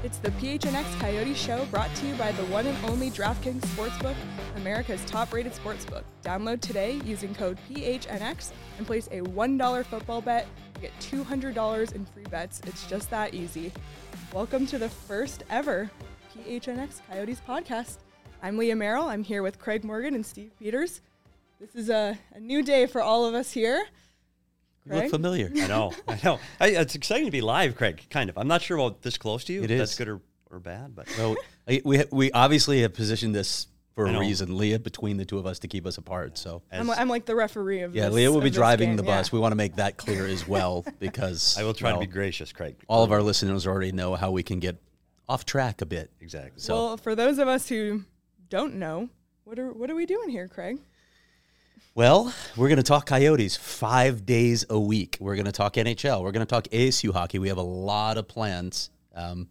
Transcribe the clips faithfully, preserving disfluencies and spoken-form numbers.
It's the P H N X Coyote Show, brought to you by the one and only DraftKings Sportsbook, America's top-rated sportsbook. Download today using code P H N X and place a one dollar football bet to get two hundred dollars in free bets. It's just that easy. Welcome to the first ever P H N X Coyotes podcast. I'm Leah Merrill. I'm here with Craig Morgan and Steve Peters. This is a, a new day for all of us here. You look familiar. I know. I know. I, it's exciting to be live, Craig, kind of. I'm not sure about this close to you. It if is. That's good or, or bad. But Well, I- we we obviously have positioned this for I a know. reason, Leah, between the two of us to keep us apart. So, as- I'm, li- I'm like the referee of yeah, this. Leah will of be this driving game, the yeah. bus. We want to make that clear as well because I will try well, to be gracious, Craig. all of our listeners already know how we can get off track a bit. Exactly. So, Well, for those of us who don't know, what are what are we doing here, Craig? well, we're going to talk Coyotes five days a week. We're going to talk N H L. We're going to talk A S U hockey. We have a lot of plans. Um,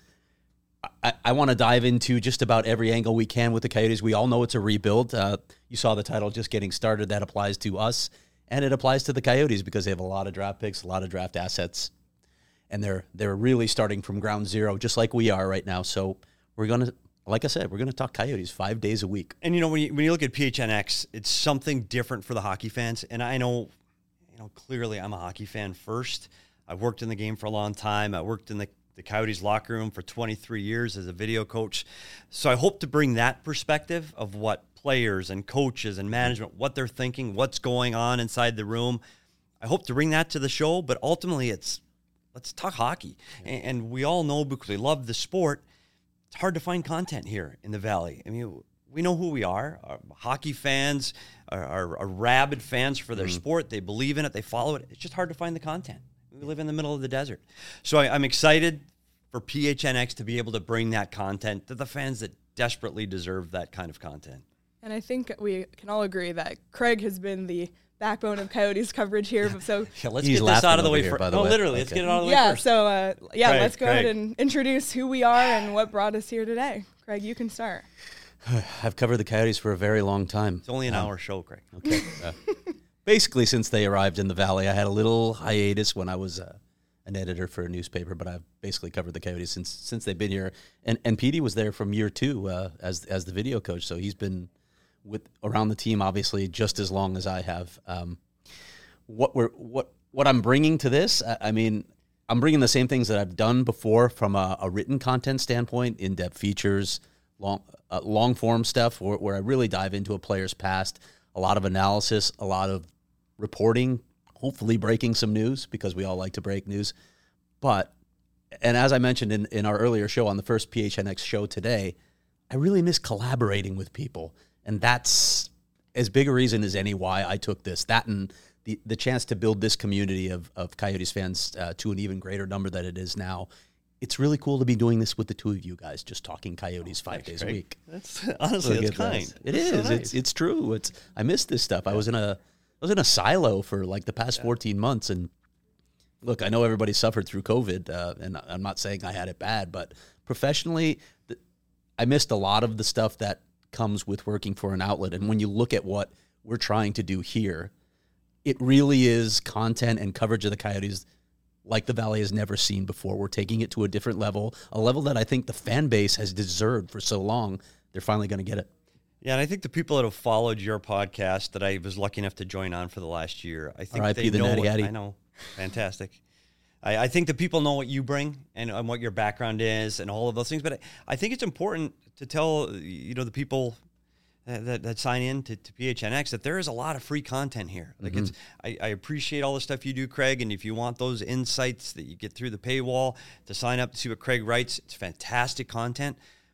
I, I want to dive into just about every angle we can with the Coyotes. We all know it's a rebuild. Uh, you saw the title, Just Getting Started. That applies to us, and it applies to the Coyotes because they have a lot of draft picks, a lot of draft assets, and they're they're really starting from ground zero, just like we are right now. So we're going to, like I said, we're going to talk Coyotes five days a week. And, you know, when you, when you look at P H N X, it's something different for the hockey fans. And I know, you know, clearly I'm a hockey fan first. I've worked in the game for a long time. I worked in the, the Coyotes locker room for twenty-three years as a video coach. So I hope to bring that perspective of what players and coaches and management, what they're thinking, what's going on inside the room. I hope to bring that to the show. But ultimately, it's let's talk hockey. And, and we all know, because we love the sport, it's hard to find content here in the Valley. I mean, we know who we are. Our hockey fans are, are, are rabid fans for their Mm-hmm. sport. They believe in it. They follow it. It's just hard to find the content. We live in the middle of the desert. So I, I'm excited for P H N X to be able to bring that content to the fans that desperately deserve that kind of content. And I think we can all agree that Craig has been the backbone of Coyotes coverage here. So Yeah, let's He's get this out laughing of the over way here, first. by the No, way. literally, let's Okay. get it out of the way yeah, first. so uh, yeah, Craig, let's go ahead Craig. and introduce who we are and what brought us here today. Craig, you can start. I've covered the Coyotes for a very long time. It's only an hour show, Craig. Okay. Uh, basically, since they arrived in the Valley, I had a little hiatus when I was uh, an editor for a newspaper, but I've basically covered the Coyotes since since they've been here. And and Petey was there from year two uh, as as the video coach, so he's been with around the team obviously just as long as I have. Um, what we're what what I'm bringing to this, I, I mean, I'm bringing the same things that I've done before from a, a written content standpoint, in-depth features, long uh, long form stuff where, where I really dive into a player's past, a lot of analysis, a lot of reporting, hopefully breaking some news because we all like to break news. But, and as I mentioned in, in our earlier show on the first P H N X show today, I really miss collaborating with people. And that's as big a reason as any why I took this. That and the, the chance to build this community of, of Coyotes fans uh, to an even greater number than it is now. It's really cool to be doing this with the two of you guys, just talking Coyotes five days a Craig. week. That's honestly, Look that's at kind. this. It That's so is. nice. It's it's true. It's I miss this stuff. I was in a I was in a silo for like the past fourteen months, and look, I know everybody suffered through COVID, uh, and I'm not saying I had it bad, but professionally, th- I missed a lot of the stuff that comes with working for an outlet. And when you look at what we're trying to do here, it really is content and coverage of the Coyotes like the Valley has never seen before. We're taking it to a different level, a level that I think the fan base has deserved for so long. They're finally going to get it. Yeah, and I think the people that have followed your podcast that I was lucky enough to join on for the last year, I think R I P they the know. Natty What, Hattie. I know, fantastic. I, I think the people know what you bring and, and what your background is and all of those things. But I, I think it's important to tell you know the people that, that, that sign in to, to P H N X that there is a lot of free content here. Like Mm-hmm. it's, I, I appreciate all the stuff you do, Craig. And if you want those insights that you get through the paywall to sign up to see what Craig writes, it's fantastic content.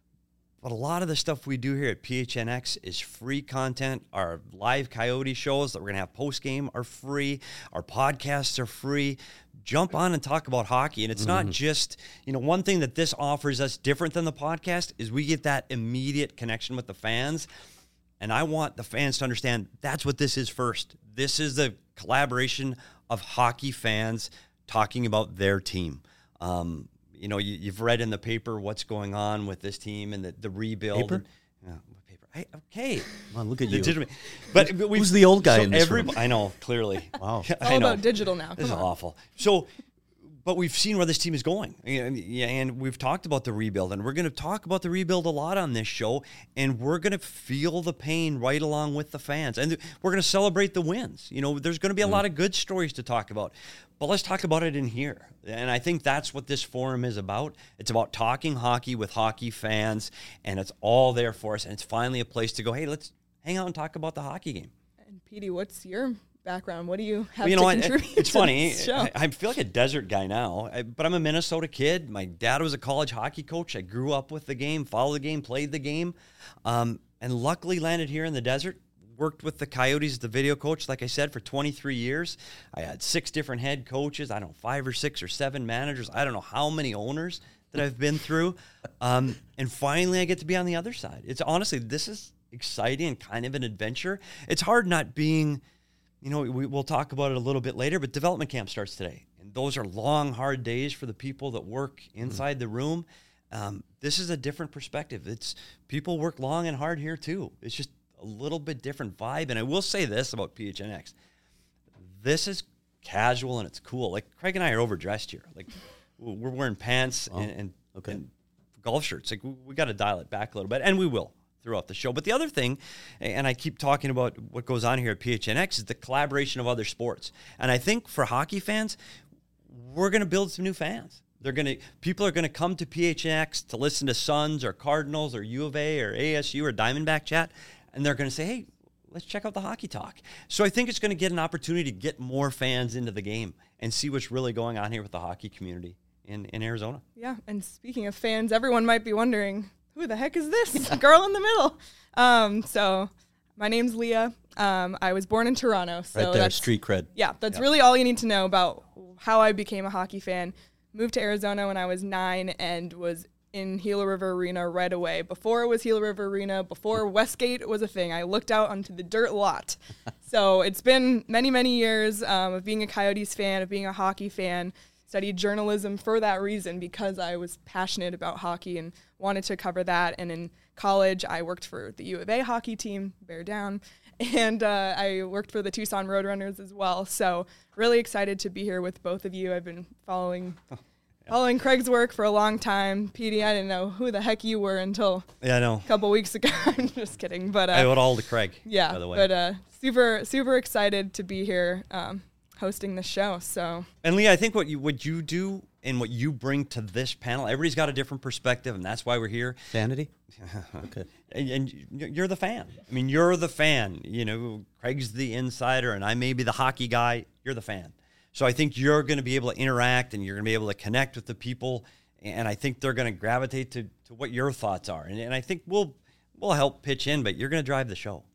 But a lot of the stuff we do here at P H N X is free content. Our live Coyote shows that we're going to have post-game are free. Our podcasts are free. Jump on and talk about hockey. And it's not just, you know, one thing that this offers us different than the podcast is we get that immediate connection with the fans. And I want the fans to understand that's what this is first. This is the collaboration of hockey fans talking about their team. Um, you know, you, you've read in the paper what's going on with this team and the, the rebuild. Paper? And, yeah, what paper? I, okay. Come on, look at you. Legitimate. But, but we Who's the old guy in this every, room? I know, clearly. Wow. It's I all know. about digital now. This Come is on. awful. So but we've seen where this team is going. Yeah, and we've talked about the rebuild, and we're going to talk about the rebuild a lot on this show, and we're going to feel the pain right along with the fans, and we're going to celebrate the wins. You know, there's going to be a mm. lot of good stories to talk about, but let's talk about it in here. And I think that's what this forum is about. It's about talking hockey with hockey fans, and it's all there for us, and it's finally a place to go, hey, let's hang out and talk about the hockey game. And Petey, what's your background? What do you have well, you to know, contribute it's to funny. this show? I, I feel like a desert guy now, I, but I'm a Minnesota kid. My dad was a college hockey coach. I grew up with the game, followed the game, played the game, um, and luckily landed here in the desert. Worked with the Coyotes as the video coach, like I said, for twenty-three years. I had six different head coaches. I don't know, five or six or seven managers. I don't know how many owners that I've been through. Um, and finally, I get to be on the other side. It's honestly, this is exciting and kind of an adventure. It's hard not being... You know, we, we'll talk about it a little bit later, but development camp starts today. And those are long, hard days for the people that work inside mm. the room. Um, this is a different perspective. It's people work long and hard here too. It's just a little bit different vibe. And I will say this about P H N X. This is casual and it's cool. Like Craig and I are overdressed here. Like we're wearing pants oh, and, and, okay. and golf shirts. Like we, we got to dial it back a little bit, and we will throughout the show. But the other thing, and I keep talking about what goes on here at P H N X, is the collaboration of other sports. And I think for hockey fans, we're going to build some new fans. They're going to people are going to come to P H N X to listen to Suns or Cardinals or U of A or A S U or Diamondback Chat, and they're going to say, hey, let's check out the Hockey Talk. So I think it's going to get an opportunity to get more fans into the game and see what's really going on here with the hockey community in, in Arizona. Yeah, and speaking of fans, everyone might be wondering, who the heck is this girl in the middle? Um, so my name's Leah. Um, I was born in Toronto. So right there, that's, street cred. Yeah, that's yep. really all you need to know about how I became a hockey fan. Moved to Arizona when I was nine and was in Gila River Arena right away. Before it was Gila River Arena, before Westgate was a thing, I looked out onto the dirt lot. So it's been many, many years um, of being a Coyotes fan, of being a hockey fan. Studied journalism for that reason because I was passionate about hockey and wanted to cover that. And in college, I worked for the U of A hockey team, Bear Down, and uh, I worked for the Tucson Roadrunners as well. So really excited to be here with both of you. I've been following oh, yeah. following Craig's work for a long time. Petey, I didn't know who the heck you were until yeah, I know. a couple weeks ago. I'm just kidding. But uh, I owe it all to Craig, yeah, by the way. But uh, super, super excited to be here. Um, hosting the show. So and Leah, I think what you what you do and what you bring to this panel, everybody's got a different perspective, and that's why we're here. Sanity. Okay. And, and you're the fan. I mean, you're the fan. You know, Craig's the insider, and I may be the hockey guy. You're the fan. So I think you're going to be able to interact, and you're going to be able to connect with the people, and I think they're going to gravitate to, to what your thoughts are. And, and I think we'll we'll help pitch in, but you're going to drive the show.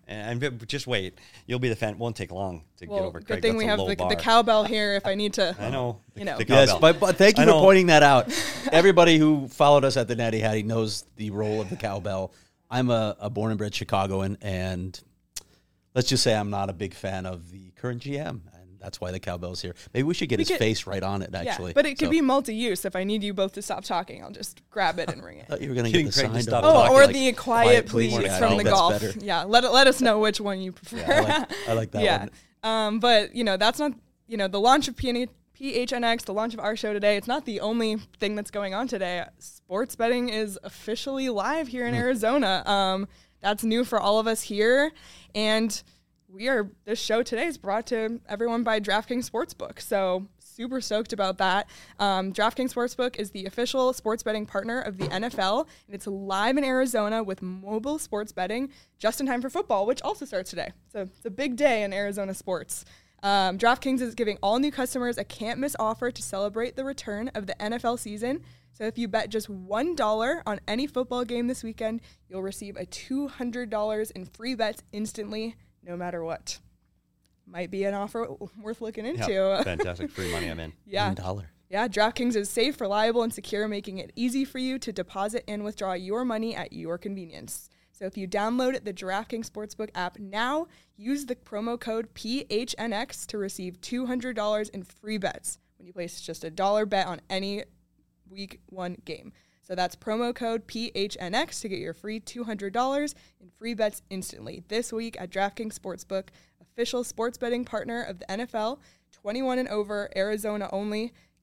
And just wait, you'll be the fan. It won't take long to well, get over. Good Craig. thing That's we have the, the cowbell here. If I need to, I know. You know, the yes, but, but thank you I for know. pointing that out. Everybody who followed us at the Natty Hattie knows the role of the cowbell. I'm a, a born and bred Chicagoan, and let's just say I'm not a big fan of the current G M. That's why the cowbell's here. Maybe we should get we his could, face right on it, actually. Yeah, but it could so. be multi-use. If I need you both to stop talking, I'll just grab it and ring it. I thought you were going to get the sign. Stop oh, talking, or like, the quiet, quiet please, please yeah, from the golf. Better. Yeah, let let us know which one you prefer. Yeah, I, like, I like that yeah. one. Um, but, you know, that's not, you know, the launch of P H N X, the launch of our show today, it's not the only thing that's going on today. Sports betting is officially live here in mm. Arizona. Um, that's new for all of us here. And we are, this show today is brought to everyone by DraftKings Sportsbook. So super stoked about that. Um, DraftKings Sportsbook is the official sports betting partner of the N F L, and it's live in Arizona with mobile sports betting just in time for football, which also starts today. So it's a big day in Arizona sports. Um, DraftKings is giving all new customers a can't-miss offer to celebrate the return of the N F L season. So if you bet just one dollar on any football game this weekend, you'll receive a two hundred dollars in free bets instantly, no matter what. Might be an offer worth looking into. Yep. Fantastic. Free money, I'm in. Yeah. One dollar. Yeah, DraftKings is safe, reliable, and secure, making it easy for you to deposit and withdraw your money at your convenience. So if you download the DraftKings Sportsbook app now, use the promo code P H N X to receive two hundred dollars in free bets when you place just a dollar bet on any week one game. So that's promo code P H N X to get your free two hundred dollars in free bets instantly this week at DraftKings Sportsbook, official sports betting partner of the N F L, twenty-one and over, Arizona only.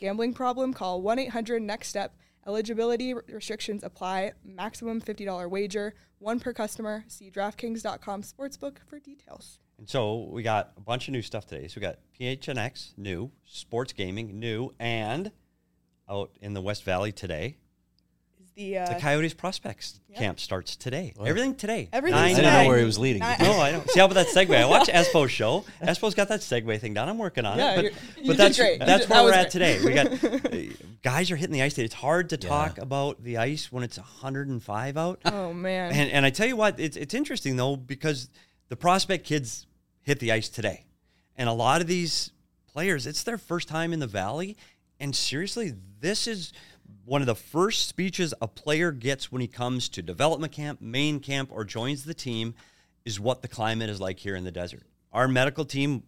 Gambling problem? Call one eight hundred next step. Eligibility restrictions apply. Maximum fifty dollars wager. One per customer. See DraftKings dot com Sportsbook for details. And so we got a bunch of new stuff today. So we got P H N X, new. Sports Gaming, new. And out in the West Valley today, Is the, uh, the Coyotes Prospects Yep. camp starts today. Wow. Everything today. Everything I Nine didn't today. know where he was leading. Nine- No, I don't. See how about that segue? I watch Espo's show. Espo's got that segue thing down. I'm working on Yeah, it. you're- But, you but did that's great. You that's did- where that we're was at today. great. We got uh, guys are hitting the ice today. It's hard to Yeah. talk about the ice when it's one hundred five out. Oh, man. And and I tell you what, it's it's interesting though because the prospect kids hit the ice today, and a lot of these players, it's their first time in the Valley, and seriously, this is one of the first speeches a player gets when he comes to development camp, main camp, or joins the team, is what the climate is like here in the desert. Our medical team,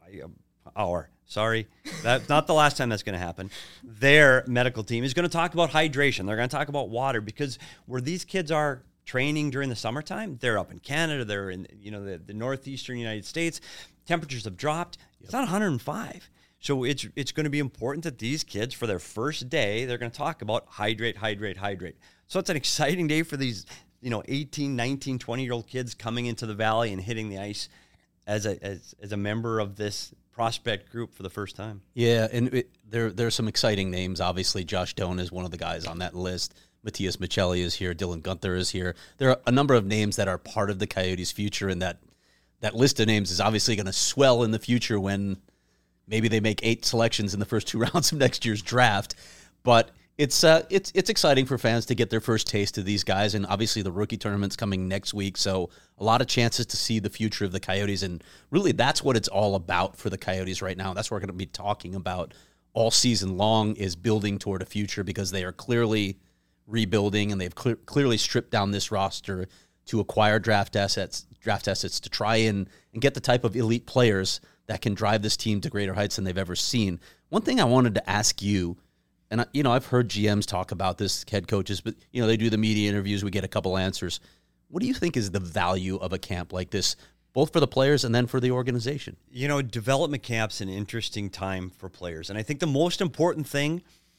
our sorry, that's not the last time that's going to happen. Their medical team is going to talk about hydration. They're going to talk about water because where these kids are training during the summertime, they're up in Canada, they're in you know the, the northeastern United States. Temperatures have dropped. It's not one hundred five. So it's it's going to be important that these kids, for their first day, they're going to talk about hydrate, hydrate, hydrate. So it's an exciting day for these, you know, eighteen, nineteen, twenty-year-old kids coming into the Valley and hitting the ice as a as, as a member of this prospect group for the first time. Yeah, and it, there there are some exciting names. Obviously, Josh Doan is one of the guys on that list. Matthias Michelli is here. Dylan Gunther is here. There are a number of names that are part of the Coyotes' future, and that that list of names is obviously going to swell in the future when maybe they make eight selections in the first two rounds of next year's draft. But it's uh, it's it's exciting for fans to get their first taste of these guys, and obviously the rookie tournament's coming next week, so a lot of chances to see the future of the Coyotes, and really that's what it's all about for the Coyotes right now. That's what we're going to be talking about all season long, is building toward a future, because they are clearly rebuilding, and they've clear, clearly stripped down this roster to acquire draft assets, draft assets to try and, and get the type of elite players that can drive this team to greater heights than they've ever seen. One thing I wanted to ask you, and I, you know, I've heard G Ms talk about this, head coaches, but you know, they do the media interviews, we get a couple answers. What do you think is the value of a camp like this, both for the players and then for the organization? You know, development camp's an interesting time for players, and I think the most important thing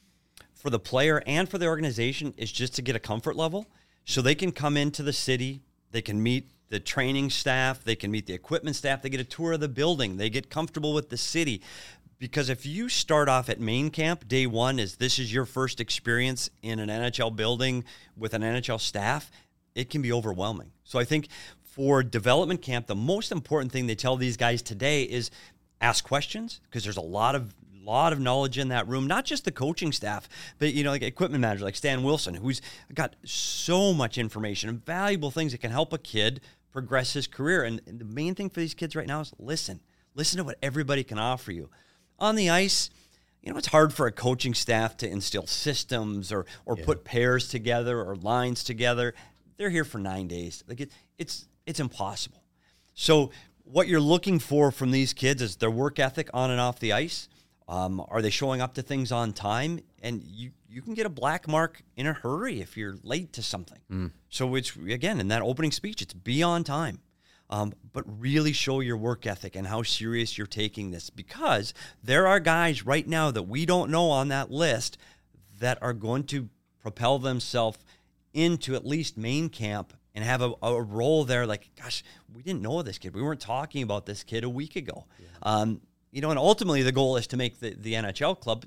for the player and for the organization is just to get a comfort level so they can come into the city, they can meet the training staff, they can meet the equipment staff, they get a tour of the building, they get comfortable with the city. Because if you start off at main camp, day one is this is your first experience in an N H L building with an N H L staff, it can be overwhelming. So I think for development camp, the most important thing they tell these guys today is ask questions, because there's a lot of lot of knowledge in that room, not just the coaching staff, but, you know, like equipment manager, like Stan Wilson, who's got so much information and valuable things that can help a kid progress his career. And, and the main thing for these kids right now is listen. Listen to what everybody can offer you. On the ice, you know, it's hard for a coaching staff to instill systems or or Yeah. put pairs together or lines together. They're here for nine days. Like it, it's it's impossible. So what you're looking for from these kids is their work ethic on and off the ice. Um, are they showing up to things on time? And you, you can get a black mark in a hurry if you're late to something. Mm. So it's, again, in that opening speech, it's be on time. Um, but really show your work ethic and how serious you're taking this, because there are guys right now that we don't know on that list that are going to propel themselves into at least main camp and have a, a role there. Like, gosh, we didn't know this kid. We weren't talking about this kid a week ago. Yeah. Um, you know, and ultimately the goal is to make the, the N H L club.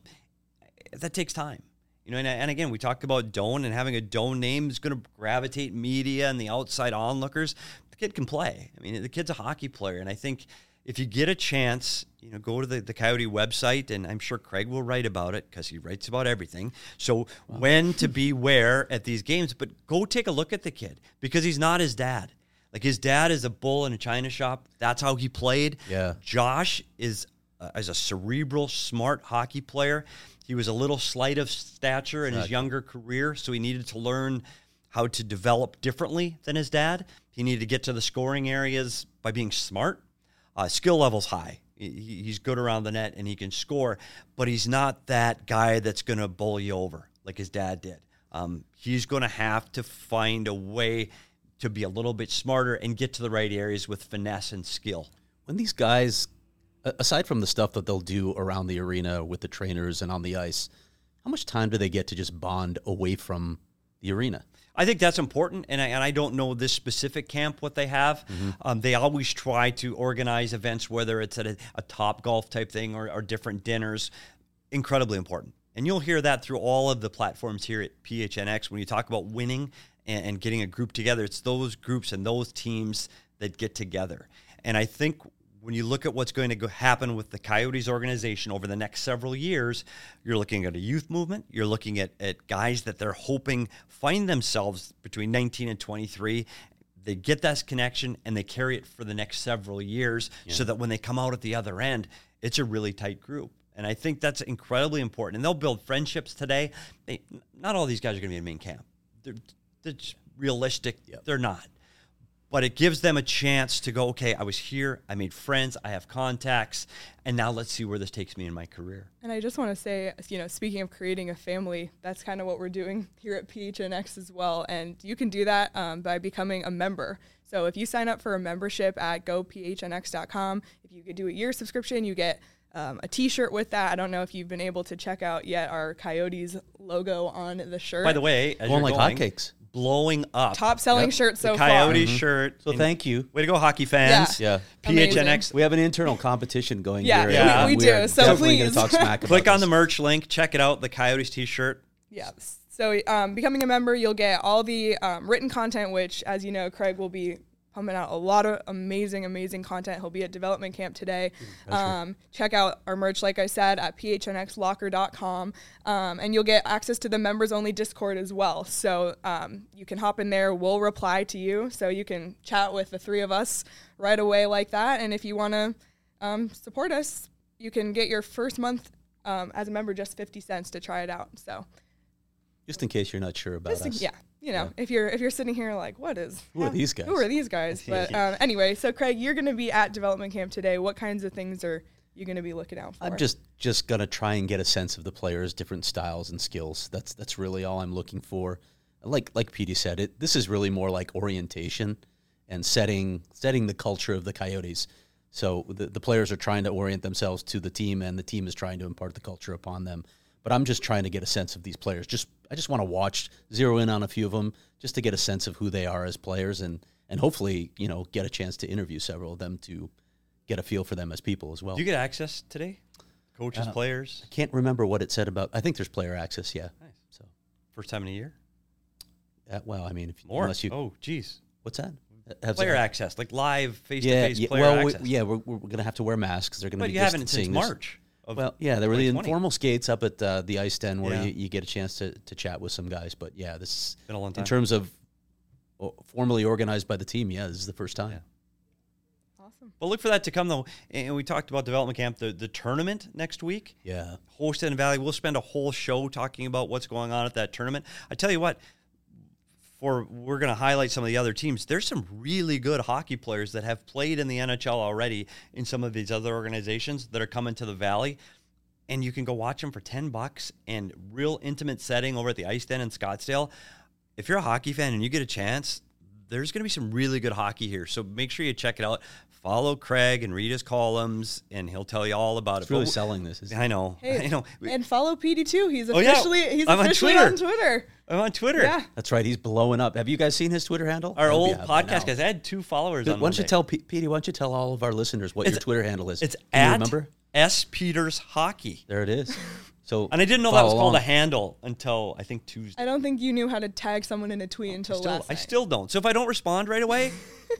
That takes time. You know, and, and again, we talked about Doan, and having a Doan name is going to gravitate media and the outside onlookers. The kid can play. I mean, the kid's a hockey player. And I think if you get a chance, you know, go to the, the Coyote website, and I'm sure Craig will write about it because he writes about everything. So wow. when to be where at these games, but go take a look at the kid, because he's not his dad. Like, his dad is a bull in a china shop. That's how he played. Yeah. Josh is uh, is a cerebral, smart hockey player. He was a little slight of stature in his younger career, so he needed to learn how to develop differently than his dad. He needed to get to the scoring areas by being smart. Uh, skill level's high. He, he's good around the net, and he can score, but he's not that guy that's going to bowl you over like his dad did. Um, he's going to have to find a way to be a little bit smarter and get to the right areas with finesse and skill. When these guys A- Aside from the stuff that they'll do around the arena with the trainers and on the ice, how much time do they get to just bond away from the arena? I think that's important, and I, and I don't know this specific camp what they have. Mm-hmm. Um, they always try to organize events, whether it's at a, a Top Golf type thing or, or different dinners. Incredibly important. And you'll hear that through all of the platforms here at P H N X. When you talk about winning and, and getting a group together, it's those groups and those teams that get together. And I think when you look at what's going to go happen with the Coyotes organization over the next several years, you're looking at a youth movement. You're looking at, at guys that they're hoping find themselves between nineteen and twenty-three. They get that connection and they carry it for the next several years yeah. so that when they come out at the other end, it's a really tight group. And I think that's incredibly important. And they'll build friendships today. They, not all these guys are going to be in main camp. They're, they're just realistic. Yep. They're not. But it gives them a chance to go, okay, I was here, I made friends, I have contacts, and now let's see where this takes me in my career. And I just want to say, you know, speaking of creating a family, that's kind of what we're doing here at P H N X as well. And you can do that um, by becoming a member. So if you sign up for a membership at go p h n x dot com, if you could do a year subscription, you get um, a t-shirt with that. I don't know if you've been able to check out yet our Coyotes logo on the shirt. By the way, as going you're like going, hotcakes. Blowing up. Top selling Yep. shirt so the far. Coyotes Mhm. shirt. So And thank you. Way to go, hockey fans. Yeah. P H N X. We have an internal competition going Yeah, here. Yeah. we, we are do. So definitely going please. to talk smack about Click on this. the merch link. Check it out. The Coyotes t-shirt. Yeah. So um, becoming a member, you'll get all the um, written content, which, as you know, Craig will be pumping out a lot of amazing, amazing content. He'll be at development camp today. Um, check out our merch, like I said, at p h n x locker dot com. Um, and you'll get access to the members-only Discord as well. So um, you can hop in there. We'll reply to you. So you can chat with the three of us right away like that. And if you want to um, support us, you can get your first month um, as a member just fifty cents to try it out. So Just in case you're not sure about just to- us. yeah. You know, yeah. if you're if you're sitting here like, what is Who are these guys? Who are these guys? But um, anyway, so Craig, you're going to be at development camp today. What kinds of things are you going to be looking out for? I'm just just gonna try and get a sense of the players' different styles and skills. That's that's really all I'm looking for. Like like Petey said, it this is really more like orientation and setting setting the culture of the Coyotes. So the the players are trying to orient themselves to the team, and the team is trying to impart the culture upon them. But I'm just trying to get a sense of these players. Just I just want to watch, zero in on a few of them, just to get a sense of who they are as players, and and hopefully, you know, get a chance to interview several of them to get a feel for them as people as well. Do you get access today? Coaches, Uh, players? I can't remember what it said about. I think there's player access. Yeah. Nice. So, First time in a year? uh, well, I mean, if More? unless you, oh, geez. what's that? Has Player it- access, like live, Yeah, face-to-face yeah. player Well, we, access. yeah, we're, we're going to have to wear masks. They're going to But be you haven't since distancing us. March. Of Well, yeah, there were the twenty twenty. informal skates up at uh, the ice den where Yeah. you, you get a chance to, to chat with some guys. But yeah, this is Been a long time. in terms of uh, formally organized by the team. Yeah, this is the first time. Yeah. awesome. Well, look for that to come, though. And we talked about development camp, the, the tournament next week. Yeah. Hosted in Valley. We'll spend a whole show talking about what's going on at that tournament. I tell you what, for we're going to highlight some of the other teams. There's some really good hockey players that have played in the N H L already in some of these other organizations that are coming to the Valley. And you can go watch them for ten bucks and real intimate setting over at the Ice Den in Scottsdale. If you're a hockey fan and you get a chance, there's going to be some really good hockey here. So make sure you check it out. Follow Craig and read his columns, and he'll tell you all about It's it. really But- selling this. Isn't it? I know. Hey, I know. and follow P D too. He's Oh, yeah. officially he's I'm on officially Twitter. on Twitter. I'm on Twitter. Yeah. That's right. He's blowing up. Have you guys seen his Twitter handle? Our I hope you old have by podcast now. guys. I had two followers Why on don't you Monday. tell P- Petey? Why don't you tell all of our listeners what It's- your Twitter handle is? It's Can you at remember? S Peters Hockey. There it is. So And I didn't know that was follow called along. a handle until I think Tuesday. I don't think you knew how to tag someone in a tweet until I still, last I night. still don't. So if I don't respond right away,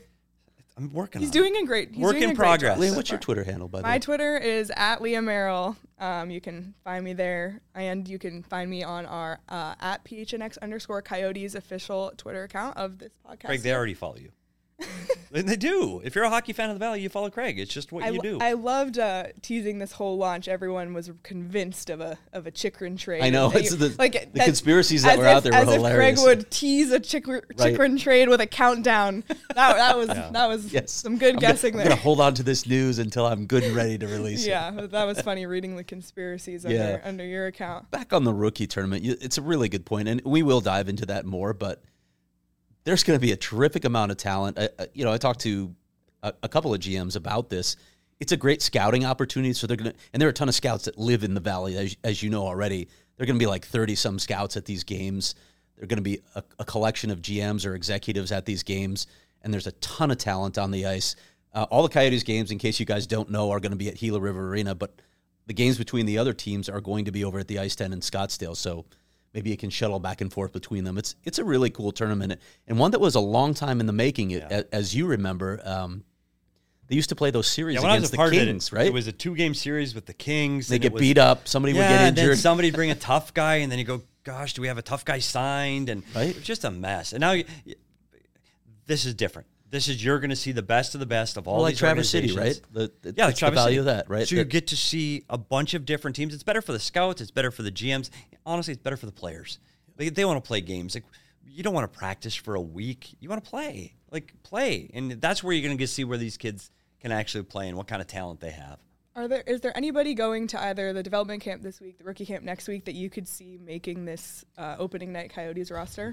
I'm working He's on doing a great he's Work doing in a great progress. job Liam, so what's your far. Twitter handle, by the My way? Twitter is at Leah Merrill. Um, you can find me there, and you can find me on our uh, at P H N X underscore Coyotes official Twitter account of this podcast. it. Craig, they already follow you. And they do. If you're a hockey fan of the Valley, you follow Craig. It's just what I, you lo- do. I loved uh, teasing this whole launch. Everyone was convinced of a of a Chikrin trade. I know, And they- it's the- like the conspiracies that as were if- out there were as if hilarious. Craig would tease a Chikrin, Right. Chikrin trade with a countdown. That, that was that was Yes. some good I'm guessing gonna, there. I'm going to hold on to this news until I'm good and ready to release it. Yeah, but that was funny reading the conspiracies under, Yeah. under your account. Back on the rookie tournament, you- it's a really good point, and we will dive into that more, but there's going to be a terrific amount of talent. I, I- you know, I talked to a, a couple of G Ms about this. it's a great scouting opportunity. So they're gonna, and there are a ton of scouts that live in the Valley, as, as you know already. They're gonna be like thirty some scouts at these games. They're gonna be a, a collection of G Ms or executives at these games, and there's a ton of talent on the ice. Uh, all the Coyotes games, in case you guys don't know, are going to be at Gila River Arena, but the games between the other teams are going to be over at the Ice Tent in Scottsdale. So maybe you can shuttle back and forth between them. It's it's a really cool tournament, and one that was a long time in the making. Yeah. As you remember, um, they used to play those series yeah, against the Kings, it, right? It was a two-game series with the Kings. They get was, beat up. Somebody yeah, would get and injured. then somebody bring a tough guy, and then you go, gosh, do we have a tough guy signed? And right? It was just a mess. And now you, this is different. This is, you're going to see the best of the best of all well, like these Traverse City, organizations. right? The, the, yeah, like the Traverse value City. of that, right? So you get to see a bunch of different teams. It's better for the scouts. It's better for the G Ms. Honestly, it's better for the players. They, they want to play games. Like, you don't want to practice for a week. You want to play. Like, play. And that's where you're going to get to see where these kids can actually play and what kind of talent they have. Are there is there anybody going to either the development camp this week, the rookie camp next week, that you could see making this uh, opening night Coyotes roster?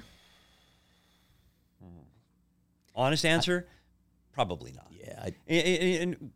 Honest answer, I, probably not. Yeah. I, and, and,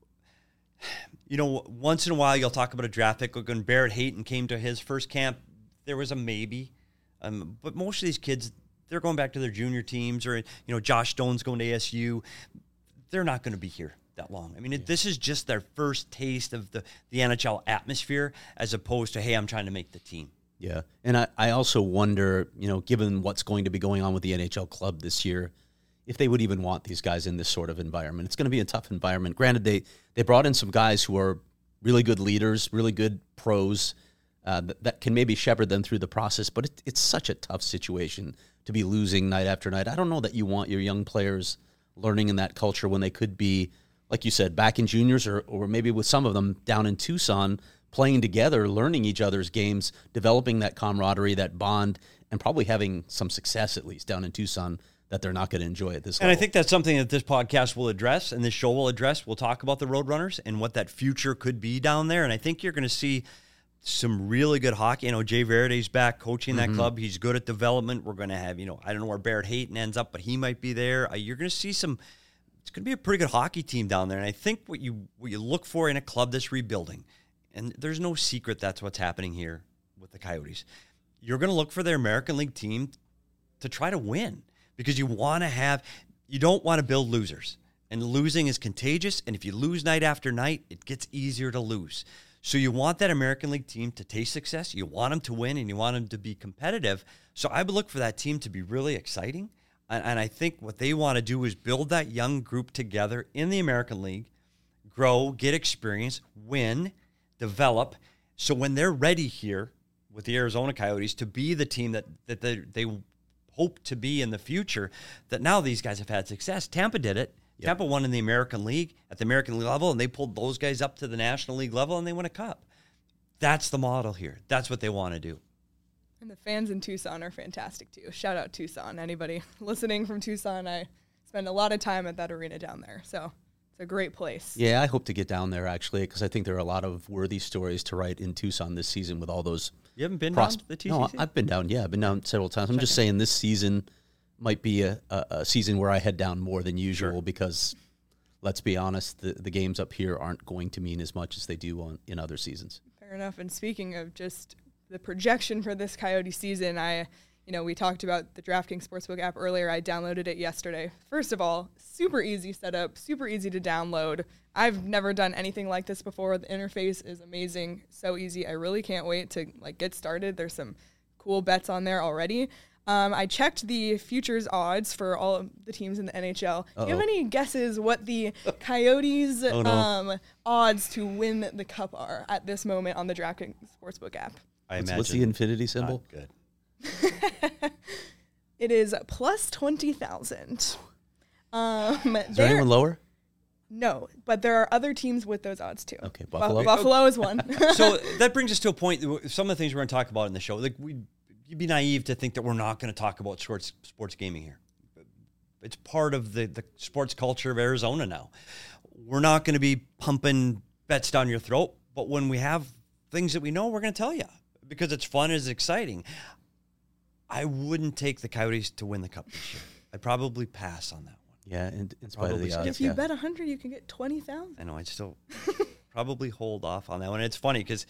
you know, once in a while you'll talk about a draft pick. When Barrett Hayton came to his first camp, there was a maybe. Um, but most of these kids, they're going back to their junior teams, or, you know, Josh Stone's going to A S U. They're not going to be here that long. I mean, it, this is just their first taste of the, the N H L atmosphere, as opposed to, hey, I'm trying to make the team. Yeah. And I, I also wonder, you know, given what's going to be going on with the N H L club this year, if they would even want these guys in this sort of environment. It's going to be a tough environment. Granted, they, they brought in some guys who are really good leaders, really good pros, uh, that, that can maybe shepherd them through the process, but it, it's such a tough situation to be losing night after night. I don't know that you want your young players learning in that culture when they could be, like you said, back in juniors, or, or maybe with some of them down in Tucson, playing together, learning each other's games, developing that camaraderie, that bond, and probably having some success at least down in Tucson that they're not going to enjoy at this and level. And I think that's something that this podcast will address and this show will address. We'll talk about the Roadrunners and what that future could be down there. And I think you're going to see some really good hockey. You know, Jay Verde's back coaching that mm-hmm. club. He's good at development. We're going to have, you know, I don't know where Barrett Hayton ends up, but he might be there. Uh, you're going to see some, it's going to be a pretty good hockey team down there. And I think what you what you look for in a club that's rebuilding, and there's no secret that's what's happening here with the Coyotes, you're going to look for their American League team to try to win. Because you want to have, you don't want to build losers. And losing is contagious. And if you lose night after night, it gets easier to lose. So you want that American League team to taste success. You want them to win, and you want them to be competitive. So I would look for that team to be really exciting. And, and I think what they want to do is build that young group together in the American League, grow, get experience, win, develop. So when they're ready here with the Arizona Coyotes to be the team that, that they, they hope to be in the future, that now these guys have had success. Tampa did it. Yep. Tampa won in the American League at the American League level, and they pulled those guys up to the National League level, and they won a cup. That's the model here. That's what they want to do. And the fans in Tucson are fantastic, too. Shout out Tucson. Anybody listening from Tucson, I spend a lot of time at that arena down there, so it's a great place. Yeah, I hope to get down there, actually, because I think there are a lot of worthy stories to write in Tucson this season with all those. You haven't been pros- down to the T C C? No, I've been down, yeah. I've been down several times. I'm Check just it. saying this season might be a, a, a season where I head down more than usual sure. because, let's be honest, the, the games up here aren't going to mean as much as they do on in other seasons. Fair enough. And speaking of just the projection for this Coyote season, I, you know, we talked about the DraftKings Sportsbook app earlier. I downloaded it yesterday. First of all, super easy setup, super easy to download. I've never done anything like this before. The interface is amazing, so easy. I really can't wait to like get started. There's some cool bets on there already. Um, I checked the futures odds for all of the teams in the N H L. Uh-oh. Do you have any guesses what the Coyotes' oh, no. um, odds to win the cup are at this moment on the DraftKings Sportsbook app? I what's, imagine what's the infinity symbol? Good. It is plus twenty thousand. Um, is there anyone lower? No, but there are other teams with those odds too. Okay, Buffalo. Buffalo is one. So that brings us to a point. Some of the things we're going to talk about in the show, like we, you'd be naive to think that we're not going to talk about sports sports gaming here. It's part of the the sports culture of Arizona now. We're not going to be pumping bets down your throat, but when we have things that we know, we're going to tell you because it's fun, it's exciting. I wouldn't take the Coyotes to win the cup this year. I'd probably pass on that one. Yeah, in, in spite of Probably the skip odds. If you yeah. bet one hundred, you can get twenty thousand. I know. I'd still probably hold off on that one. It's funny because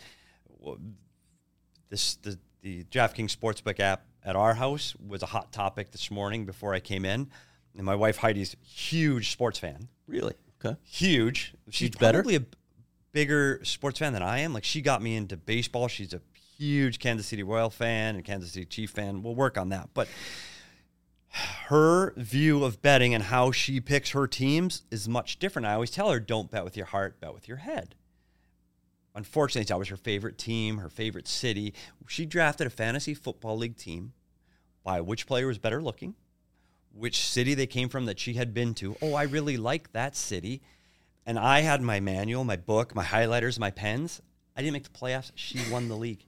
this the the DraftKings Sportsbook app at our house was a hot topic this morning before I came in, and my wife Heidi's a huge sports fan. Really? Okay. Huge. She's She's better? probably a bigger sports fan than I am. Like, she got me into baseball. She's a huge Kansas City Royal fan and Kansas City Chief fan. We'll work on that. But her view of betting and how she picks her teams is much different. I always tell her, don't bet with your heart, bet with your head. Unfortunately, that was her favorite team, her favorite city. She drafted a fantasy football league team by which player was better looking, which city they came from that she had been to. Oh, I really like that city. And I had my manual, my book, my highlighters, my pens. I didn't make the playoffs. She won the league.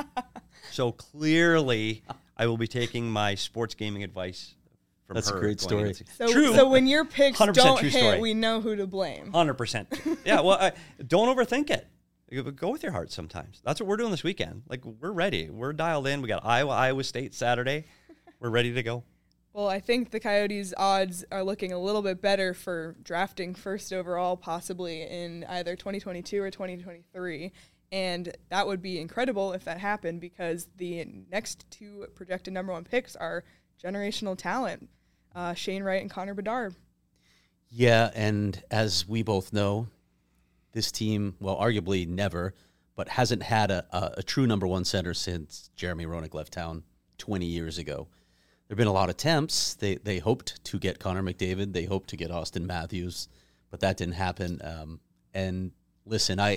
So clearly, I will be taking my sports gaming advice from That's her. a great going story. into- So, True. so when your picks one hundred percent don't true hit, story. we know who to blame. one hundred percent. Yeah, well, I, don't overthink it. Go with your heart sometimes. That's what we're doing this weekend. Like, we're ready. We're dialed in. We got Iowa, Iowa State Saturday. We're ready to go. Well, I think the Coyotes' odds are looking a little bit better for drafting first overall, possibly in either twenty twenty-two or twenty twenty-three. And that would be incredible if that happened, because the next two projected number one picks are generational talent, uh, Shane Wright and Connor Bedard. Yeah, and as we both know, this team, well, arguably never, but hasn't had a, a, a true number one center since Jeremy Roenick left town twenty years ago. There have been a lot of attempts. They they hoped to get Connor McDavid. They hoped to get Austin Matthews, but that didn't happen. Um, and listen, I,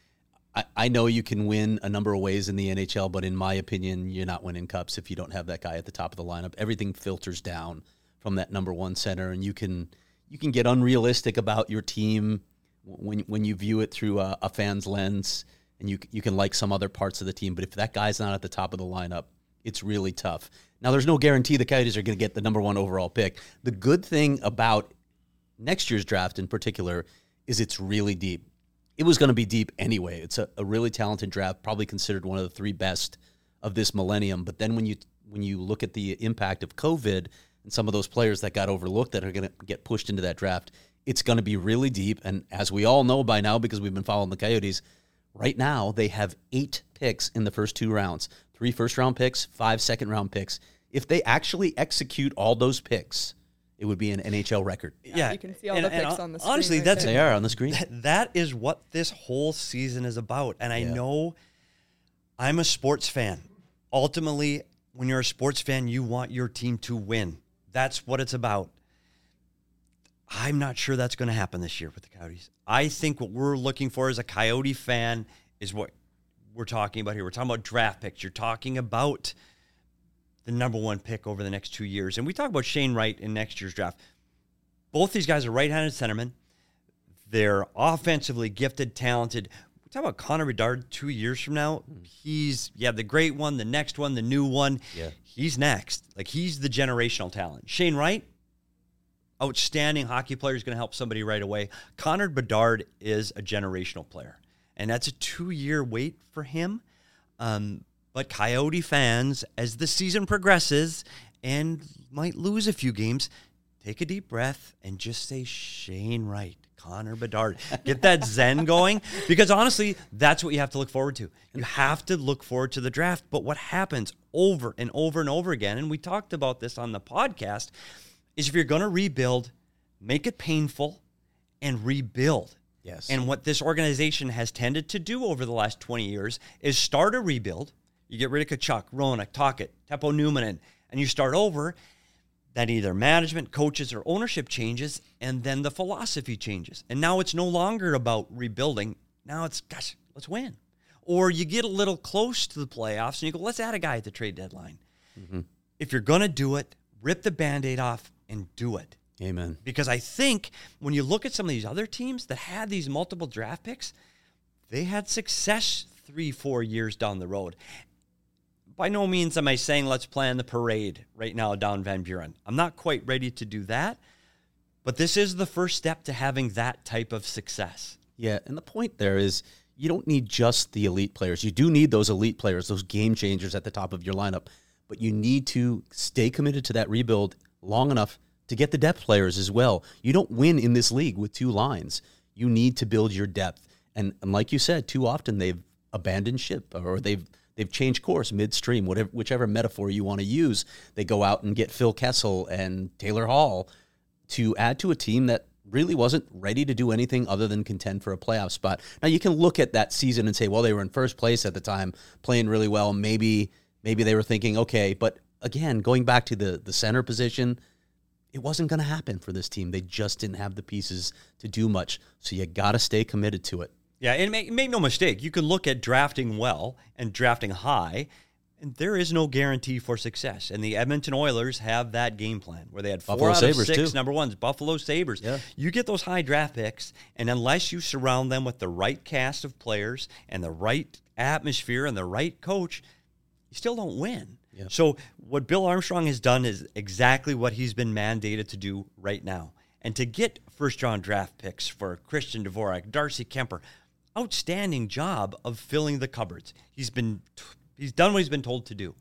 I I know you can win a number of ways in the N H L, but in my opinion, you're not winning cups if you don't have that guy at the top of the lineup. Everything filters down from that number one center, and you can you can get unrealistic about your team when when you view it through a, a fan's lens, and you you can like some other parts of the team. But if that guy's not at the top of the lineup, it's really tough. Now, there's no guarantee the Coyotes are going to get the number one overall pick. The good thing about next year's draft in particular is it's really deep. It was going to be deep anyway. It's a, a really talented draft, probably considered one of the three best of this millennium. But then when you when you look at the impact of COVID and some of those players that got overlooked that are going to get pushed into that draft, it's going to be really deep. And as we all know by now, because we've been following the Coyotes, right now they have eight picks in the first two rounds. Three first-round picks, five second-round picks. If they actually execute all those picks, it would be an N H L record. Yeah, you can see all and- the and picks on the screen honestly, right that's there. They are on the screen. That, that is what this whole season is about. And I Yeah. know I'm a sports fan. Ultimately, when you're a sports fan, you want your team to win. That's what it's about. I'm not sure that's going to happen this year with the Coyotes. I think what we're looking for as a Coyote fan is what we're talking about here. We're talking about draft picks. You're talking about the number one pick over the next two years. And we talk about Shane Wright in next year's draft. Both these guys are right-handed centermen. They're offensively gifted, talented. We talk about Connor Bedard two years from now. He's, yeah, the great one, the next one, the new one. Yeah. He's next. Like, he's the generational talent. Shane Wright, outstanding hockey player, is going to help somebody right away. Connor Bedard is a generational player, and that's a two-year wait for him. Um, but Coyote fans, as the season progresses and might lose a few games, take a deep breath and just say Shane Wright, Connor Bedard. Get that zen going, because honestly, that's what you have to look forward to. You have to look forward to the draft. But what happens over and over and over again, and we talked about this on the podcast, is if you're going to rebuild, make it painful and rebuild. Yes. And what this organization has tended to do over the last twenty years is start a rebuild. You get rid of Kachuk, Roenick, Tocchet, Teppo Numminen, and you start over. Then either management, coaches, or ownership changes, and then the philosophy changes. And now it's no longer about rebuilding. Now it's, gosh, let's win. Or you get a little close to the playoffs, and you go, let's add a guy at the trade deadline. Mm-hmm. If you're going to do it, rip the Band-Aid off and do it. Amen. Because I think when you look at some of these other teams that had these multiple draft picks, they had success three, four years down the road. By no means am I saying let's plan the parade right now down Van Buren. I'm not quite ready to do that, but this is the first step to having that type of success. Yeah, and the point there is you don't need just the elite players. You do need those elite players, those game changers at the top of your lineup, but you need to stay committed to that rebuild long enough to get the depth players as well. You don't win in this league with two lines. You need to build your depth. And, and like you said, too often they've abandoned ship, or they've they've changed course midstream, whatever whichever metaphor you want to use. They go out and get Phil Kessel and Taylor Hall to add to a team that really wasn't ready to do anything other than contend for a playoff spot. Now you can look at that season and say, well, they were in first place at the time, playing really well. Maybe maybe they were thinking, okay, but again, going back to the the center position, it wasn't going to happen for this team. They just didn't have the pieces to do much. So you got to stay committed to it. Yeah, and make, make no mistake, you can look at drafting well and drafting high, and there is no guarantee for success. And the Edmonton Oilers have that game plan where they had four Buffalo out Sabres, of six too. number ones, Buffalo Sabres. Yeah. You get those high draft picks, and unless you surround them with the right cast of players and the right atmosphere and the right coach, you still don't win. Yeah. So what Bill Armstrong has done is exactly what he's been mandated to do right now. And to get first-round draft picks for Christian Dvorak, Darcy Kemper, outstanding job of filling the cupboards. He's been he's done what he's been told to do.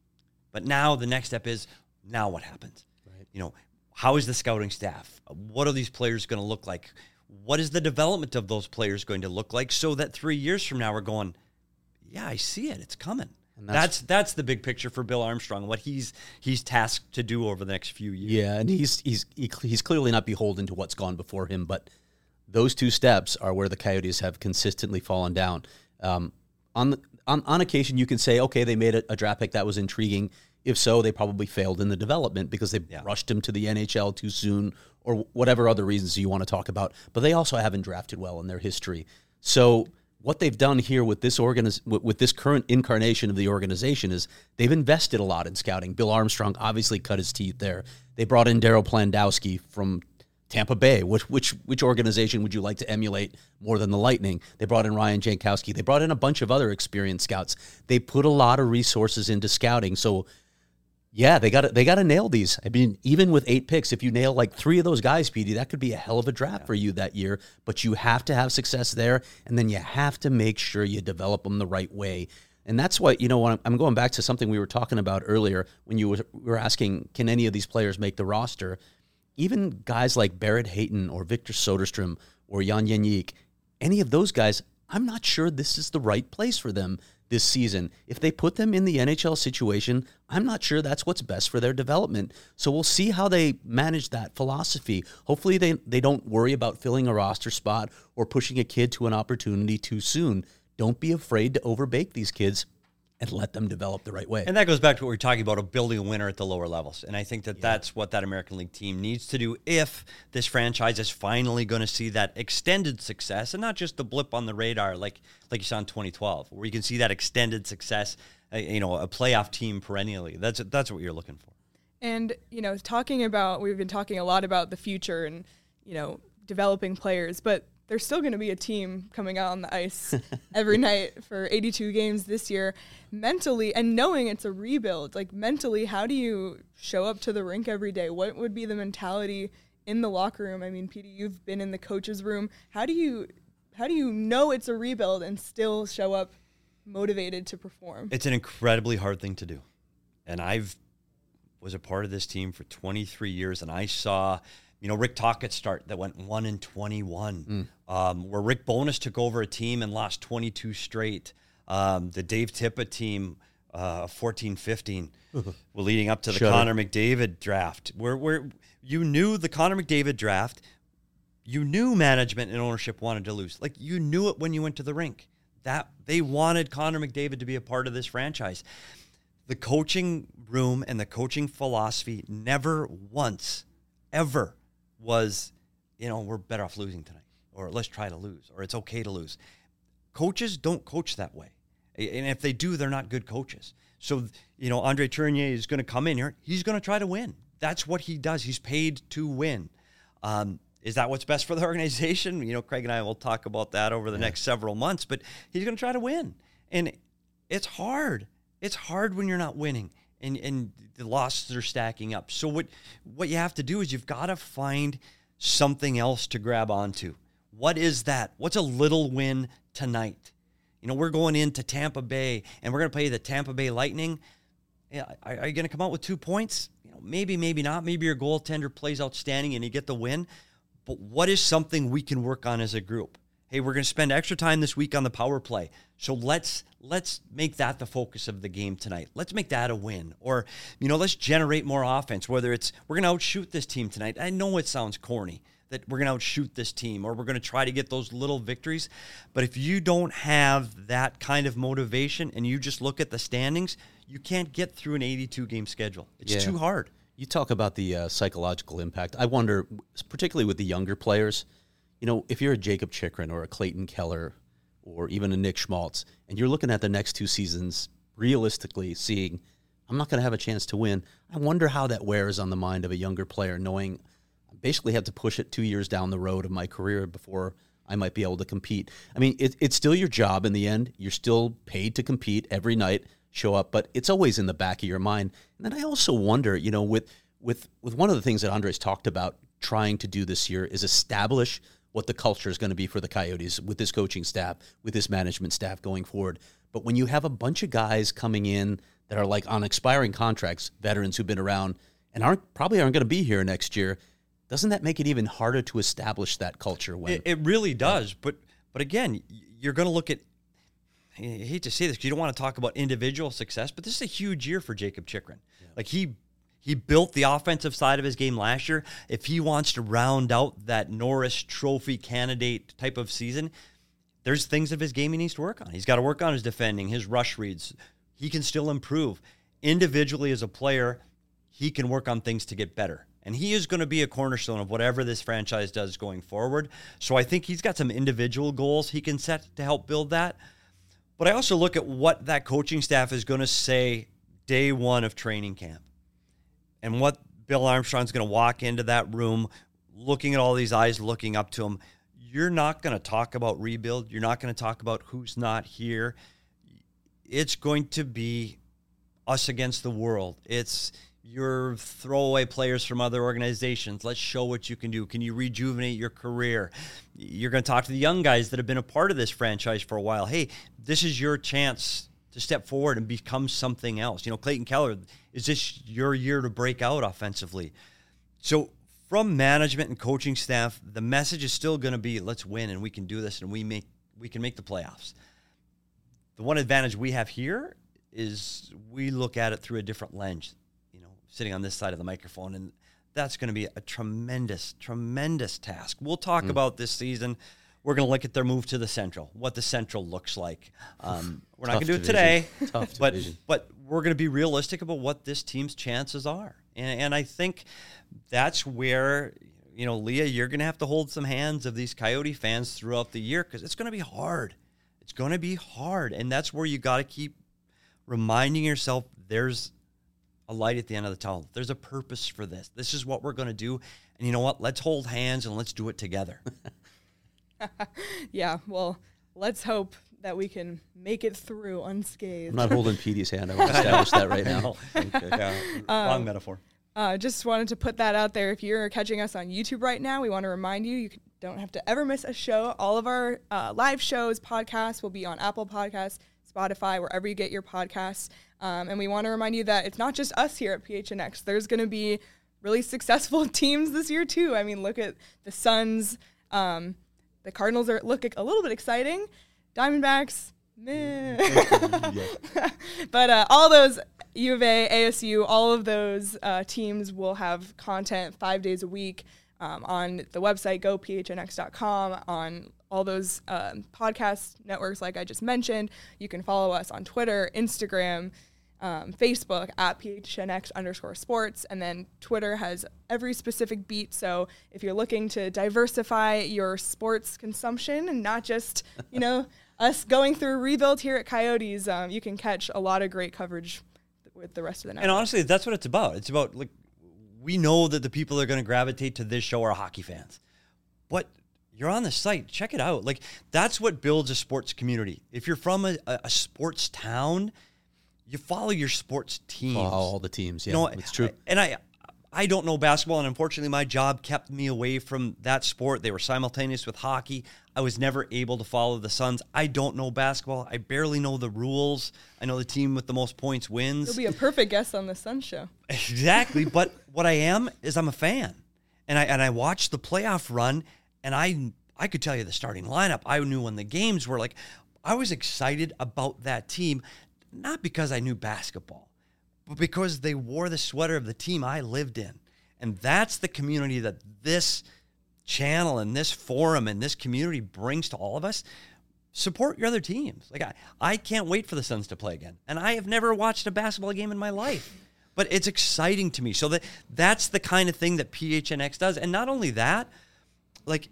But now the next step is, now what happens? Right. You know, how is the scouting staff? What are these players going to look like? What is the development of those players going to look like, so that three years from now we're going, yeah, I see it. It's coming. And That's, that's that's the big picture for Bill Armstrong, what he's he's tasked to do over the next few years. Yeah, and he's he's he, he's clearly not beholden to what's gone before him, but those two steps are where the Coyotes have consistently fallen down. Um, on, the, on on occasion, you can say, okay, they made a, a draft pick that was intriguing. If so, they probably failed in the development because they Yeah. rushed him to the N H L too soon, or whatever other reasons you want to talk about. But they also haven't drafted well in their history. So what they've done here with this organiz- with, with this current incarnation of the organization is they've invested a lot in scouting. Bill Armstrong obviously cut his teeth there. They brought in Daryl Plandowski from Tampa Bay. Which which which organization would you like to emulate more than the Lightning? They brought in Ryan Jankowski. They brought in a bunch of other experienced scouts. They put a lot of resources into scouting. So yeah, they got they got to nail these. I mean, even with eight picks, if you nail like three of those guys, Petey, that could be a hell of a draft yeah. for you that year. But you have to have success there, and then you have to make sure you develop them the right way. And that's what, you know, when I'm going back to something we were talking about earlier when you were asking, can any of these players make the roster? Even guys like Barrett Hayton or Victor Soderstrom or Jan Jeník, any of those guys, I'm not sure this is the right place for them this season. If they put them in the N H L situation, I'm not sure that's what's best for their development. So we'll see how they manage that philosophy. Hopefully they, they don't worry about filling a roster spot or pushing a kid to an opportunity too soon. Don't be afraid to overbake these kids and let them develop the right way. And that goes back to what we we're talking about, of building a winner at the lower levels. And I think that yeah. that's what that American League team needs to do if this franchise is finally going to see that extended success and not just the blip on the radar like like you saw in twenty twelve, where you can see that extended success, uh, you know, a playoff team perennially. That's that's what you're looking for. And, you know, talking about, we've been talking a lot about the future and, you know, developing players, but there's still going to be a team coming out on the ice every night for eighty-two games this year. Mentally, and knowing it's a rebuild, like mentally, how do you show up to the rink every day? What would be the mentality in the locker room? I mean, Petey, you've been in the coach's room. How do you, how do you know it's a rebuild and still show up motivated to perform? It's an incredibly hard thing to do. And I've was a part of this team for twenty-three years, and I saw, you know, Rick Tocchet start that went one and twenty-one, mm. um, where Rick Bowness took over a team and lost twenty-two straight. Um, the Dave Tippa team, uh, fourteen fifteen, well, leading up to the Shudder. Connor McDavid draft, where where you knew the Connor McDavid draft, you knew management and ownership wanted to lose. Like, you knew it when you went to the rink. That they wanted Connor McDavid to be a part of this franchise. The coaching room and the coaching philosophy never once, ever was, you know, we're better off losing tonight, or let's try to lose, or it's okay to lose. Coaches don't coach that way. And if they do, they're not good coaches. So, you know, Andre Tourigny is going to come in here. He's going to try to win. That's what he does. He's paid to win. Um, is that what's best for the organization? You know, Craig and I will talk about that over the yeah. next several months, but he's going to try to win. And it's hard. It's hard when you're not winning and, and the losses are stacking up. So what, what you have to do is you've got to find something else to grab onto. What is that? What's a little win tonight? You know, we're going into Tampa Bay and we're going to play the Tampa Bay Lightning. Yeah, are, are you going to come out with two points? You know, maybe, maybe not. Maybe your goaltender plays outstanding and you get the win. But what is something we can work on as a group? Hey, we're going to spend extra time this week on the power play. So let's let's make that the focus of the game tonight. Let's make that a win. Or, you know, let's generate more offense, whether it's we're going to outshoot this team tonight. I know it sounds corny that we're going to outshoot this team or we're going to try to get those little victories. But if you don't have that kind of motivation and you just look at the standings, you can't get through an eighty-two game schedule. It's Yeah. too hard. You talk about the uh, psychological impact. I wonder, particularly with the younger players, you know, if you're a Jacob Chychrun or a Clayton Keller or even a Nick Schmaltz, and you're looking at the next two seasons realistically seeing, I'm not going to have a chance to win, I wonder how that wears on the mind of a younger player, knowing I basically have to push it two years down the road of my career before I might be able to compete. I mean, it, it's still your job in the end. You're still paid to compete every night, show up, but it's always in the back of your mind. And then I also wonder, you know, with with with one of the things that Andres talked about trying to do this year is establish what the culture is going to be for the Coyotes with this coaching staff, with this management staff going forward. But when you have a bunch of guys coming in that are like on expiring contracts, veterans who've been around and aren't probably aren't going to be here next year, doesn't that make it even harder to establish that culture? When It, it really does. But but again, you're going to look at, I hate to say this because you don't want to talk about individual success, but this is a huge year for Jacob Chychrun. Yeah. Like he he built the offensive side of his game last year. If he wants to round out that Norris Trophy candidate type of season, there's things of his game he needs to work on. He's got to work on his defending, his rush reads. He can still improve. Individually as a player, he can work on things to get better. And he is going to be a cornerstone of whatever this franchise does going forward. So I think he's got some individual goals he can set to help build that. But I also look at what that coaching staff is going to say day one of training camp. And what Bill Armstrong's going to walk into that room looking at all these eyes looking up to him. You're not going to talk about rebuild. You're not going to talk about who's not here. It's going to be us against the world. It's your throwaway players from other organizations. Let's show what you can do. Can you rejuvenate your career? You're going to talk to the young guys that have been a part of this franchise for a while. Hey, this is your chance to step forward and become something else. You know, Clayton Keller, is this your year to break out offensively? So from management and coaching staff, the message is still going to be, let's win and we can do this and we make we can make the playoffs. The one advantage we have here is we look at it through a different lens, you know, sitting on this side of the microphone, and that's going to be a tremendous, tremendous task. We'll talk mm. about this season. We're going to look at their move to the Central, what the Central looks like. Um, we're not going to do it today, Tough but division. but we're going to be realistic about what this team's chances are. And, and I think that's where, you know, Leah, you're going to have to hold some hands of these Coyote fans throughout the year because it's going to be hard. It's going to be hard. And that's where you got to keep reminding yourself there's a light at the end of the tunnel. There's a purpose for this. This is what we're going to do. And you know what? Let's hold hands and let's do it together. Yeah, well, let's hope that we can make it through unscathed. I'm not holding Petey's hand. I want to establish that right now. Okay. Yeah, Um, wrong metaphor. Uh, just wanted to put that out there. If you're catching us on YouTube right now, we want to remind you, you don't have to ever miss a show. All of our uh, live shows, podcasts will be on Apple Podcasts, Spotify, wherever you get your podcasts. Um, and we want to remind you that it's not just us here at P H N X. There's going to be really successful teams this year, too. I mean, look at the Suns. Um, the Cardinals are look a little bit exciting. Diamondbacks, meh. But uh, all those U of A, A S U, all of those uh, teams will have content five days a week um, on the website, go P H N X dot com, on all those um, podcast networks like I just mentioned. You can follow us on Twitter, Instagram, um, Facebook, at P H N X underscore sports, and then Twitter has every specific beat. So if you're looking to diversify your sports consumption and not just, you know, us going through a rebuild here at Coyotes, um, you can catch a lot of great coverage with the rest of the network. And honestly, that's what it's about. It's about, like, we know that the people that are going to gravitate to this show are hockey fans. But you're on the site. Check it out. Like, that's what builds a sports community. If you're from a, a sports town, you follow your sports teams. Follow all the teams, yeah, you know, it's true. And I I don't know basketball, and unfortunately my job kept me away from that sport. They were simultaneous with hockey. I was never able to follow the Suns. I don't know basketball. I barely know the rules. I know the team with the most points wins. You'll be a perfect guest on the Suns show. Exactly, but what I am is I'm a fan. And I and I watched the playoff run, and I I could tell you the starting lineup. I knew when the games were. Like, I was excited about that team, not because I knew basketball, but because they wore the sweater of the team I lived in. And that's the community that this channel and this forum and this community brings to all of us. Support your other teams. Like, I, I can't wait for the Suns to play again. And I have never watched a basketball game in my life. But it's exciting to me. So that that's the kind of thing that P H N X does. And not only that, like,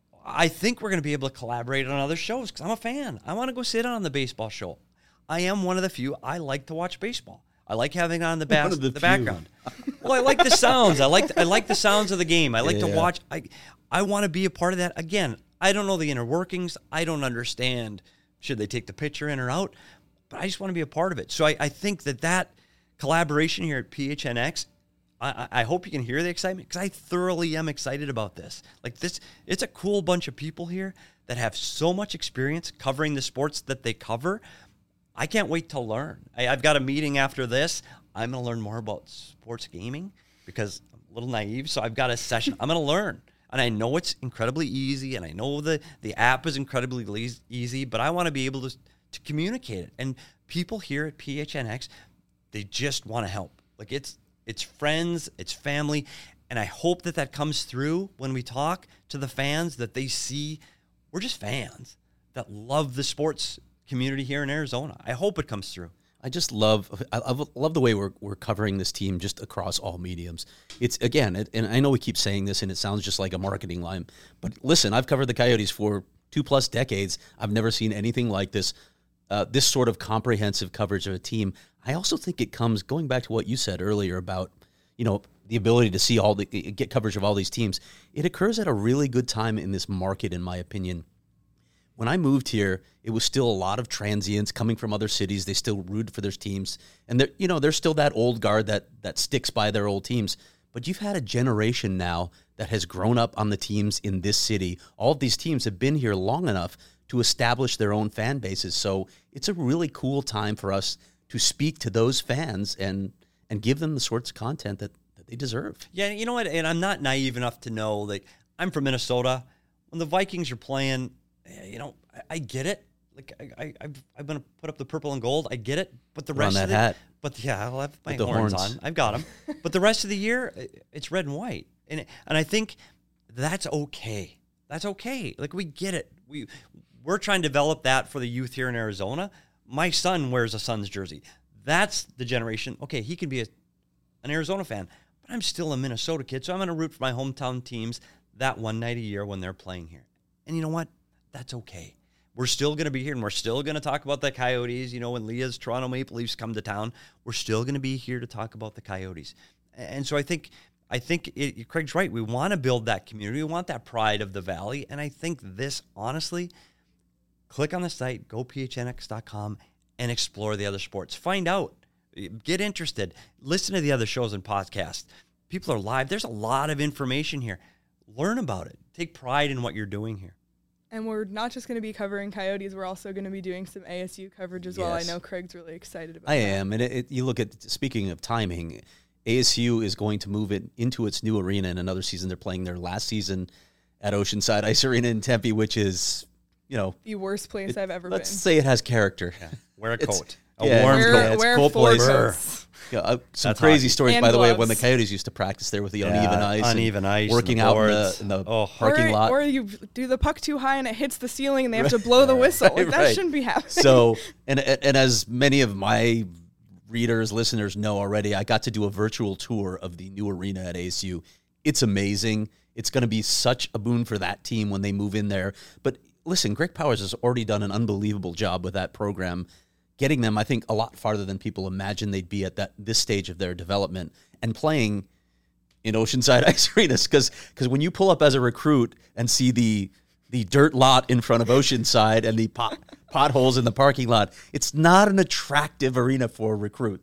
I think we're going to be able to collaborate on other shows because I'm a fan. I want to go sit on the baseball show. I am one of the few. I like to watch baseball. I like having it on the, bas- the, the background. Well, I like the sounds. I like I like the sounds of the game. I like yeah. to watch. I I want to be a part of that. Again, I don't know the inner workings. I don't understand should they take the pitcher in or out, but I just want to be a part of it. So I, I think that that collaboration here at P H N X, I, I hope you can hear the excitement because I thoroughly am excited about this. Like this, it's a cool bunch of people here that have so much experience covering the sports that they cover. I can't wait to learn. I, I've got a meeting after this. I'm going to learn more about sports gaming because I'm a little naive. So I've got a session. I'm going to learn. And I know it's incredibly easy, and I know the, the app is incredibly easy, but I want to be able to, to communicate it. And people here at P H N X, they just want to help. Like it's it's friends, it's family, and I hope that that comes through when we talk to the fans, that they see we're just fans that love the sports community here in Arizona. I hope it comes through. I just love I love the way we're we're covering this team just across all mediums. It's again, it, and I know we keep saying this, and it sounds just like a marketing line, but listen, I've covered the Coyotes for two plus decades. I've never seen anything like this. Uh, this sort of comprehensive coverage of a team. I also think it comes going back to what you said earlier about, you know, the ability to see all the get coverage of all these teams. It occurs at a really good time in this market, in my opinion. When I moved here, it was still a lot of transients coming from other cities. They still root for their teams, and they're, you know, there's still that old guard that that sticks by their old teams. But you've had a generation now that has grown up on the teams in this city. All of these teams have been here long enough to establish their own fan bases. So it's a really cool time for us to speak to those fans and and give them the sorts of content that, that they deserve. Yeah, you know what? And I'm not naive enough to know, like, I'm from Minnesota. When the Vikings are playing, you know, I, I get it. Like, I, I, I've, I'm going to put up the purple and gold. I get it. But the rest on that of the hat. But yeah, I'll have my With the horns, horns on. I've got them. But the rest of the year, it's red and white. And and I think that's okay. That's okay. Like, we get it. We We're trying to develop that for the youth here in Arizona. My son wears a Suns jersey. That's the generation. Okay, he can be a, an Arizona fan, but I'm still a Minnesota kid, so I'm going to root for my hometown teams that one night a year when they're playing here. And you know what? That's okay. We're still going to be here, and we're still going to talk about the Coyotes. You know, when Leah's Toronto Maple Leafs come to town, we're still going to be here to talk about the Coyotes. And so I think I think it, Craig's right. We want to build that community. We want that pride of the Valley. And I think this, honestly, click on the site, go P H N X dot com, and explore the other sports. Find out. Get interested. Listen to the other shows and podcasts. People are live. There's a lot of information here. Learn about it. Take pride in what you're doing here. And we're not just going to be covering Coyotes. We're also going to be doing some A S U coverage as yes. well. I know Craig's really excited about I that. I am. And it, it, you look at, speaking of timing, A S U is going to move it into its new arena in another season. They're playing their last season at Oceanside Ice Arena in Tempe, which is, you know, the worst place it, I've ever let's been. Let's say it has character. Yeah. Wear a It's, coat. A yeah, warm wear, coat. Yeah, it's wear cold four place. coats. Yeah, uh, some That's crazy hockey. stories, And by the way, gloves. when the Coyotes used to practice there with the Yeah, uneven ice. and uneven ice, Working and the out in the, boards. in the Oh. parking or, lot. Or you do the puck too high and it hits the ceiling and they have to blow the whistle. Like, that Right. shouldn't be happening. So, and and as many of my readers, listeners know already, I got to do a virtual tour of the new arena at A S U. It's amazing. It's going to be such a boon for that team when they move in there. But listen, Greg Powers has already done an unbelievable job with that program, getting them, I think, a lot farther than people imagined they'd be at that this stage of their development, and playing in Oceanside Ice Arenas. Because because when you pull up as a recruit and see the the dirt lot in front of Oceanside and the pot, potholes in the parking lot, it's not an attractive arena for recruits.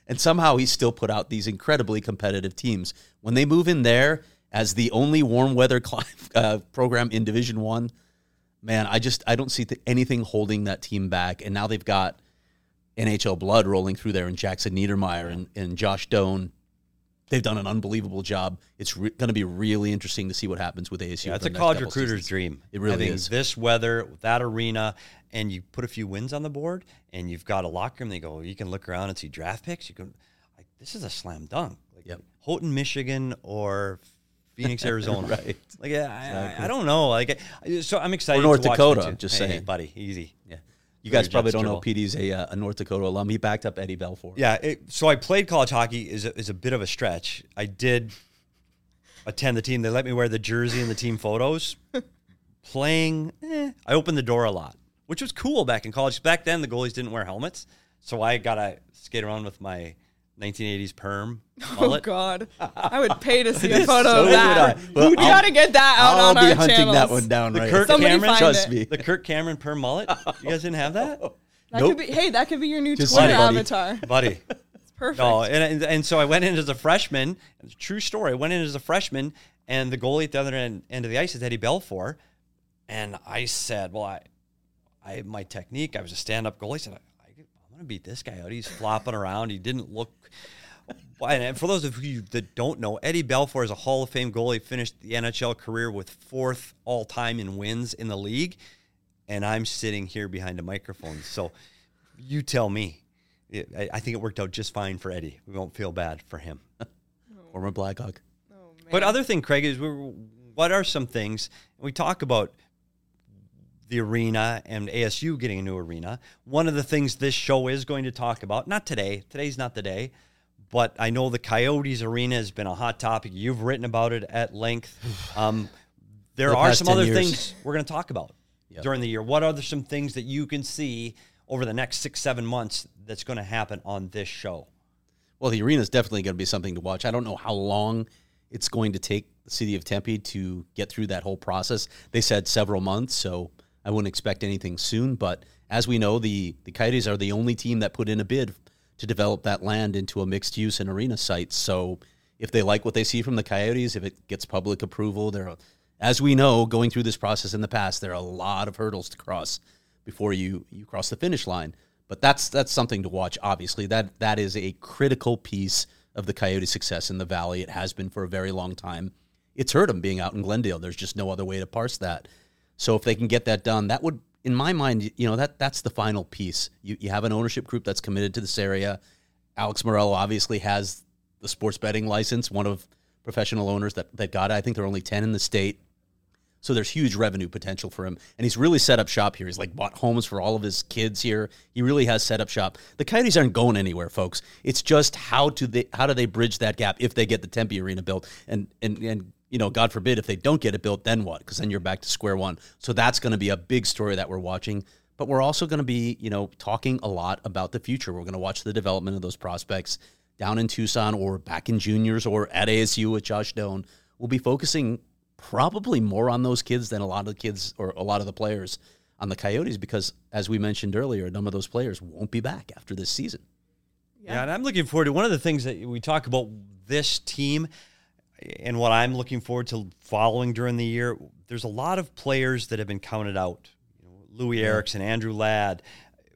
And somehow he's still put out these incredibly competitive teams. When they move in there as the only warm weather cl- uh, program in Division One, man, I just I don't see th- anything holding that team back. And now they've got N H L blood rolling through there, and Jackson Niedermeyer and, and Josh Doan. They've done an unbelievable job. It's re- going to be really interesting to see what happens with A S U. Yeah, it's for a the next college couple recruiter's seasons. dream. It really Having is. This weather, that arena, and you put a few wins on the board, and you've got a locker room. They go, you can look around and see draft picks. You can, like, this is a slam dunk. Like, Yep. Houghton, Michigan, or Phoenix, Arizona. Right. Like, I, I, I don't know. Like, I, so I'm excited. Or North to watch Dakota, them too. just hey, saying. buddy, easy. Yeah. You guys Very probably Jets don't know dribble. P D's a, uh, a North Dakota alum. He backed up Eddie Belfour. Yeah. It, so I played college hockey is a, is a bit of a stretch. I did attend the team. They let me wear the jersey and the team photos. Playing, eh, I opened the door a lot, which was cool back in college. Back then, the goalies didn't wear helmets, so I got to skate around with my nineteen eighties perm Oh mullet. God, I would pay to see a photo So of would that. I. Well, we I'll- gotta get that out I'll on be our hunting channels. that one down The right Kirk now. Somebody Cameron, find Trust it. me. the Kirk Cameron perm mullet. You guys didn't have that, That Nope. could be. Hey, that could be your new Just Twitter say, buddy. avatar. buddy. It's perfect. No, and, and and so I went in as a freshman. It's a true story. I went in as a freshman, and the goalie at the other end, end of the ice is Eddie Belfour. And I said, well, I, I my technique, I was a stand-up goalie. I said, I, I'm going to beat this guy out. He's flopping around. He didn't look. And for those of you that don't know, Eddie Belfour is a Hall of Fame goalie, finished the N H L career with fourth all-time in wins in the league. And I'm sitting here behind a microphone. So you tell me. It, I, I think it worked out just fine for Eddie. We won't feel bad for him. Former Blackhawk. Oh, man. But other thing, Craig, is we're, what are some things, we talk about the arena and A S U getting a new arena. One of the things this show is going to talk about, not today, today's not the day, but I know the Coyotes arena has been a hot topic. You've written about it at length. Um, there The are past some ten other years. things we're going to talk about Yep. during the year. What are some things that you can see over the next six, seven months that's going to happen on this show? Well, the arena is definitely going to be something to watch. I don't know how long it's going to take the city of Tempe to get through that whole process. They said several months, so I wouldn't expect anything soon. But as we know, the, the Coyotes are the only team that put in a bid to develop that land into a mixed-use and arena site. So if they like what they see from the Coyotes, if it gets public approval, there are, as we know, going through this process in the past, there are a lot of hurdles to cross before you, you cross the finish line. But that's that's something to watch, obviously. That that is a critical piece of the Coyote success in the Valley. It has been for a very long time. It's hurt them being out in Glendale. There's just no other way to parse that. So if they can get that done, that would, in my mind, you know, that that's the final piece. You you have an ownership group that's committed to this area. Alex Morello obviously has the sports betting license, one of professional owners that, that got it. I think there are only ten in the state. So there's huge revenue potential for him. And he's really set up shop here. He's like bought homes for all of his kids here. He really has set up shop. The Coyotes aren't going anywhere, folks. It's just how do they how do they bridge that gap if they get the Tempe Arena built? And and and you know, God forbid if they don't get it built, then what? Because then you're back to square one. So that's going to be a big story that we're watching. But we're also going to be, you know, talking a lot about the future. We're going to watch the development of those prospects down in Tucson or back in juniors or at A S U with Josh Doan. We'll be focusing probably more on those kids than a lot of the kids or a lot of the players on the Coyotes because, as we mentioned earlier, a number of those players won't be back after this season. Yeah. yeah, and I'm looking forward to one of the things that we talk about this team and what I'm looking forward to following during the year. There's a lot of players that have been counted out. You know, Louis yeah. Erickson, Andrew Ladd.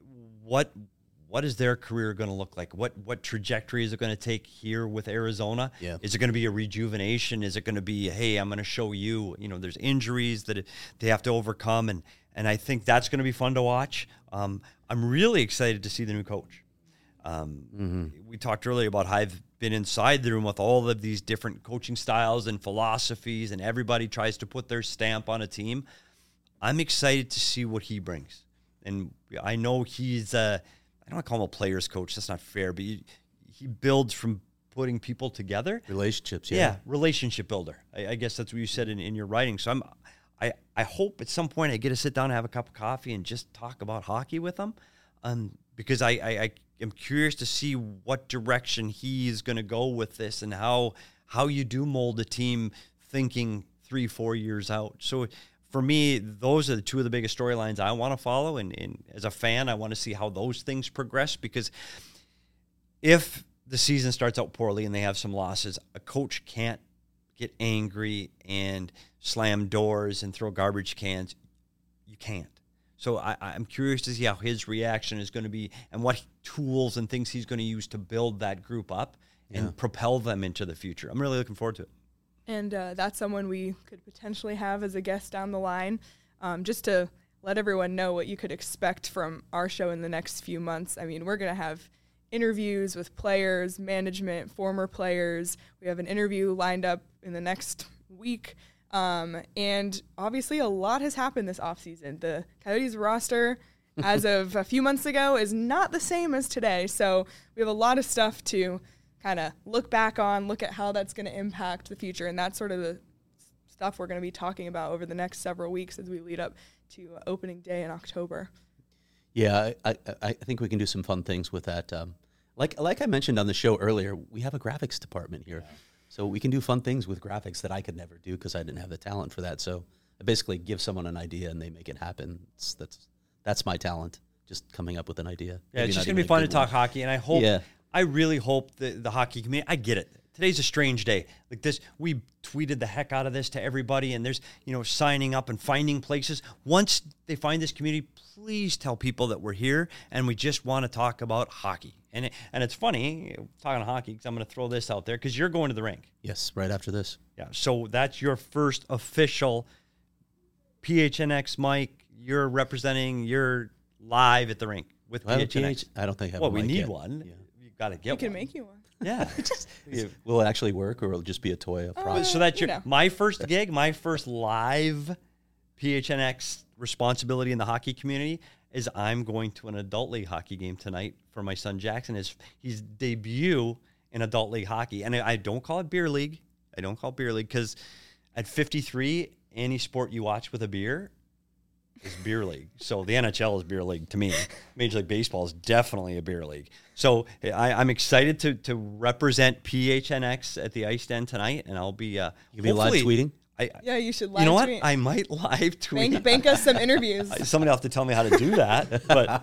What what is their career going to look like? What what trajectory is it going to take here with Arizona? Yeah. Is it going to be a rejuvenation? Is it going to be, hey, I'm going to show you, you know, there's injuries that they have to overcome. And, and I think that's going to be fun to watch. Um, I'm really excited to see the new coach. Um, mm-hmm. We talked earlier about how I've been inside the room with all of these different coaching styles and philosophies, and everybody tries to put their stamp on a team. I'm excited to see what he brings. And I know he's uh, I don't want to call him a player's coach. That's not fair. But he, he builds from putting people together. Relationships, yeah. Yeah, relationship builder. I, I guess that's what you said in, in your writing. So I'm, I, I hope at some point I get to sit down and have a cup of coffee and just talk about hockey with him. Um, because I, I, I am curious to see what direction he is going to go with this and how how you do mold a team thinking three, four years out. So for me, those are the two of the biggest storylines I want to follow. And, and as a fan, I want to see how those things progress, because if the season starts out poorly and they have some losses, a coach can't get angry and slam doors and throw garbage cans. You can't. So I, I'm curious to see how his reaction is going to be and what tools and things he's going to use to build that group up and Yeah. propel them into the future. I'm really looking forward to it. And uh, that's someone we could potentially have as a guest down the line, um, just to let everyone know what you could expect from our show in the next few months. I mean, we're going to have interviews with players, management, former players. We have an interview lined up in the next week. Um, and obviously a lot has happened this offseason. The Coyotes roster, as of a few months ago, is not the same as today. So we have a lot of stuff to kind of look back on, look at how that's going to impact the future. And that's sort of the stuff we're going to be talking about over the next several weeks as we lead up to uh, opening day in October. Yeah, I, I, I think we can do some fun things with that. Um, like like I mentioned on the show earlier, we have a graphics department here. Yeah. So we can do fun things with graphics that I could never do because I didn't have the talent for that. So I basically give someone an idea and they make it happen. It's, that's that's my talent, just coming up with an idea. Yeah, Maybe it's just not going to even be a fun to good talk one. hockey, and I hope, Yeah. I really hope that the hockey community, I get it. Today's a strange day. Like this, we tweeted the heck out of this to everybody, and there's, you know, signing up and finding places. Once they find this community, please tell people that we're here, and we just want to talk about hockey. And it, and it's funny, talking hockey, because I'm going to throw this out there, because you're going to the rink. Yes, right after this. Yeah, so that's your first official P H N X mic. You're representing, you're live at the rink with Do I have a P H N X. P H? I don't think I have Well, a we mic need yet. one. Yeah. You've got to get We one. can make you one. Yeah. You- Will it actually work, or will it just be a toy? A Uh, prop? so that's you your know. my first gig, my first live P H N X responsibility in the hockey community is I'm going to an adult league hockey game tonight for my son Jackson. His his debut in adult league hockey, and I, I don't call it beer league. I don't call it beer league because at fifty-three, any sport you watch with a beer is beer league. So the N H L is beer league to me. Major League Baseball is definitely a beer league. So I, I'm excited to to represent P H N X at the Ice Den tonight, and I'll be uh, You'll be live hopefully- tweeting? I, Yeah, you should live you know what? tweet. I might live tweet. Bank, bank us some interviews. Somebody will have to tell me how to do that. But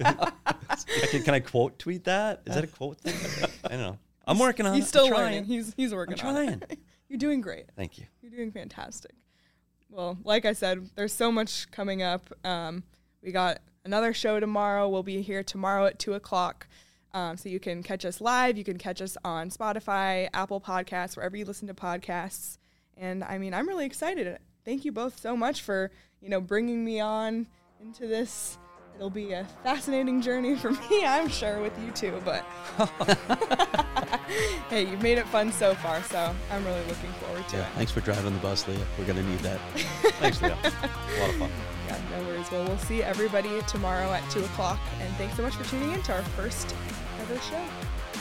can, can I quote tweet that? Is that a quote thing? I don't know. I'm working on He's it. still I'm trying. learning. He's he's working I'm on trying. it. You're doing great. Thank you. You're doing fantastic. Well, like I said, there's so much coming up. Um, we got another show tomorrow. We'll be here tomorrow at two o'clock. Um, so you can catch us live. You can catch us on Spotify, Apple Podcasts, wherever you listen to podcasts. And I mean, I'm really excited. Thank you both so much for, you know, bringing me on into this. It'll be a fascinating journey for me, I'm sure, with you two. But hey, you've made it fun so far, so I'm really looking forward to Yeah. it. Thanks for driving the bus, Leah. We're going to need that. Thanks, Leo. A lot of fun. Yeah, no worries. Well, we'll see everybody tomorrow at two o'clock. And thanks so much for tuning in to our first ever show.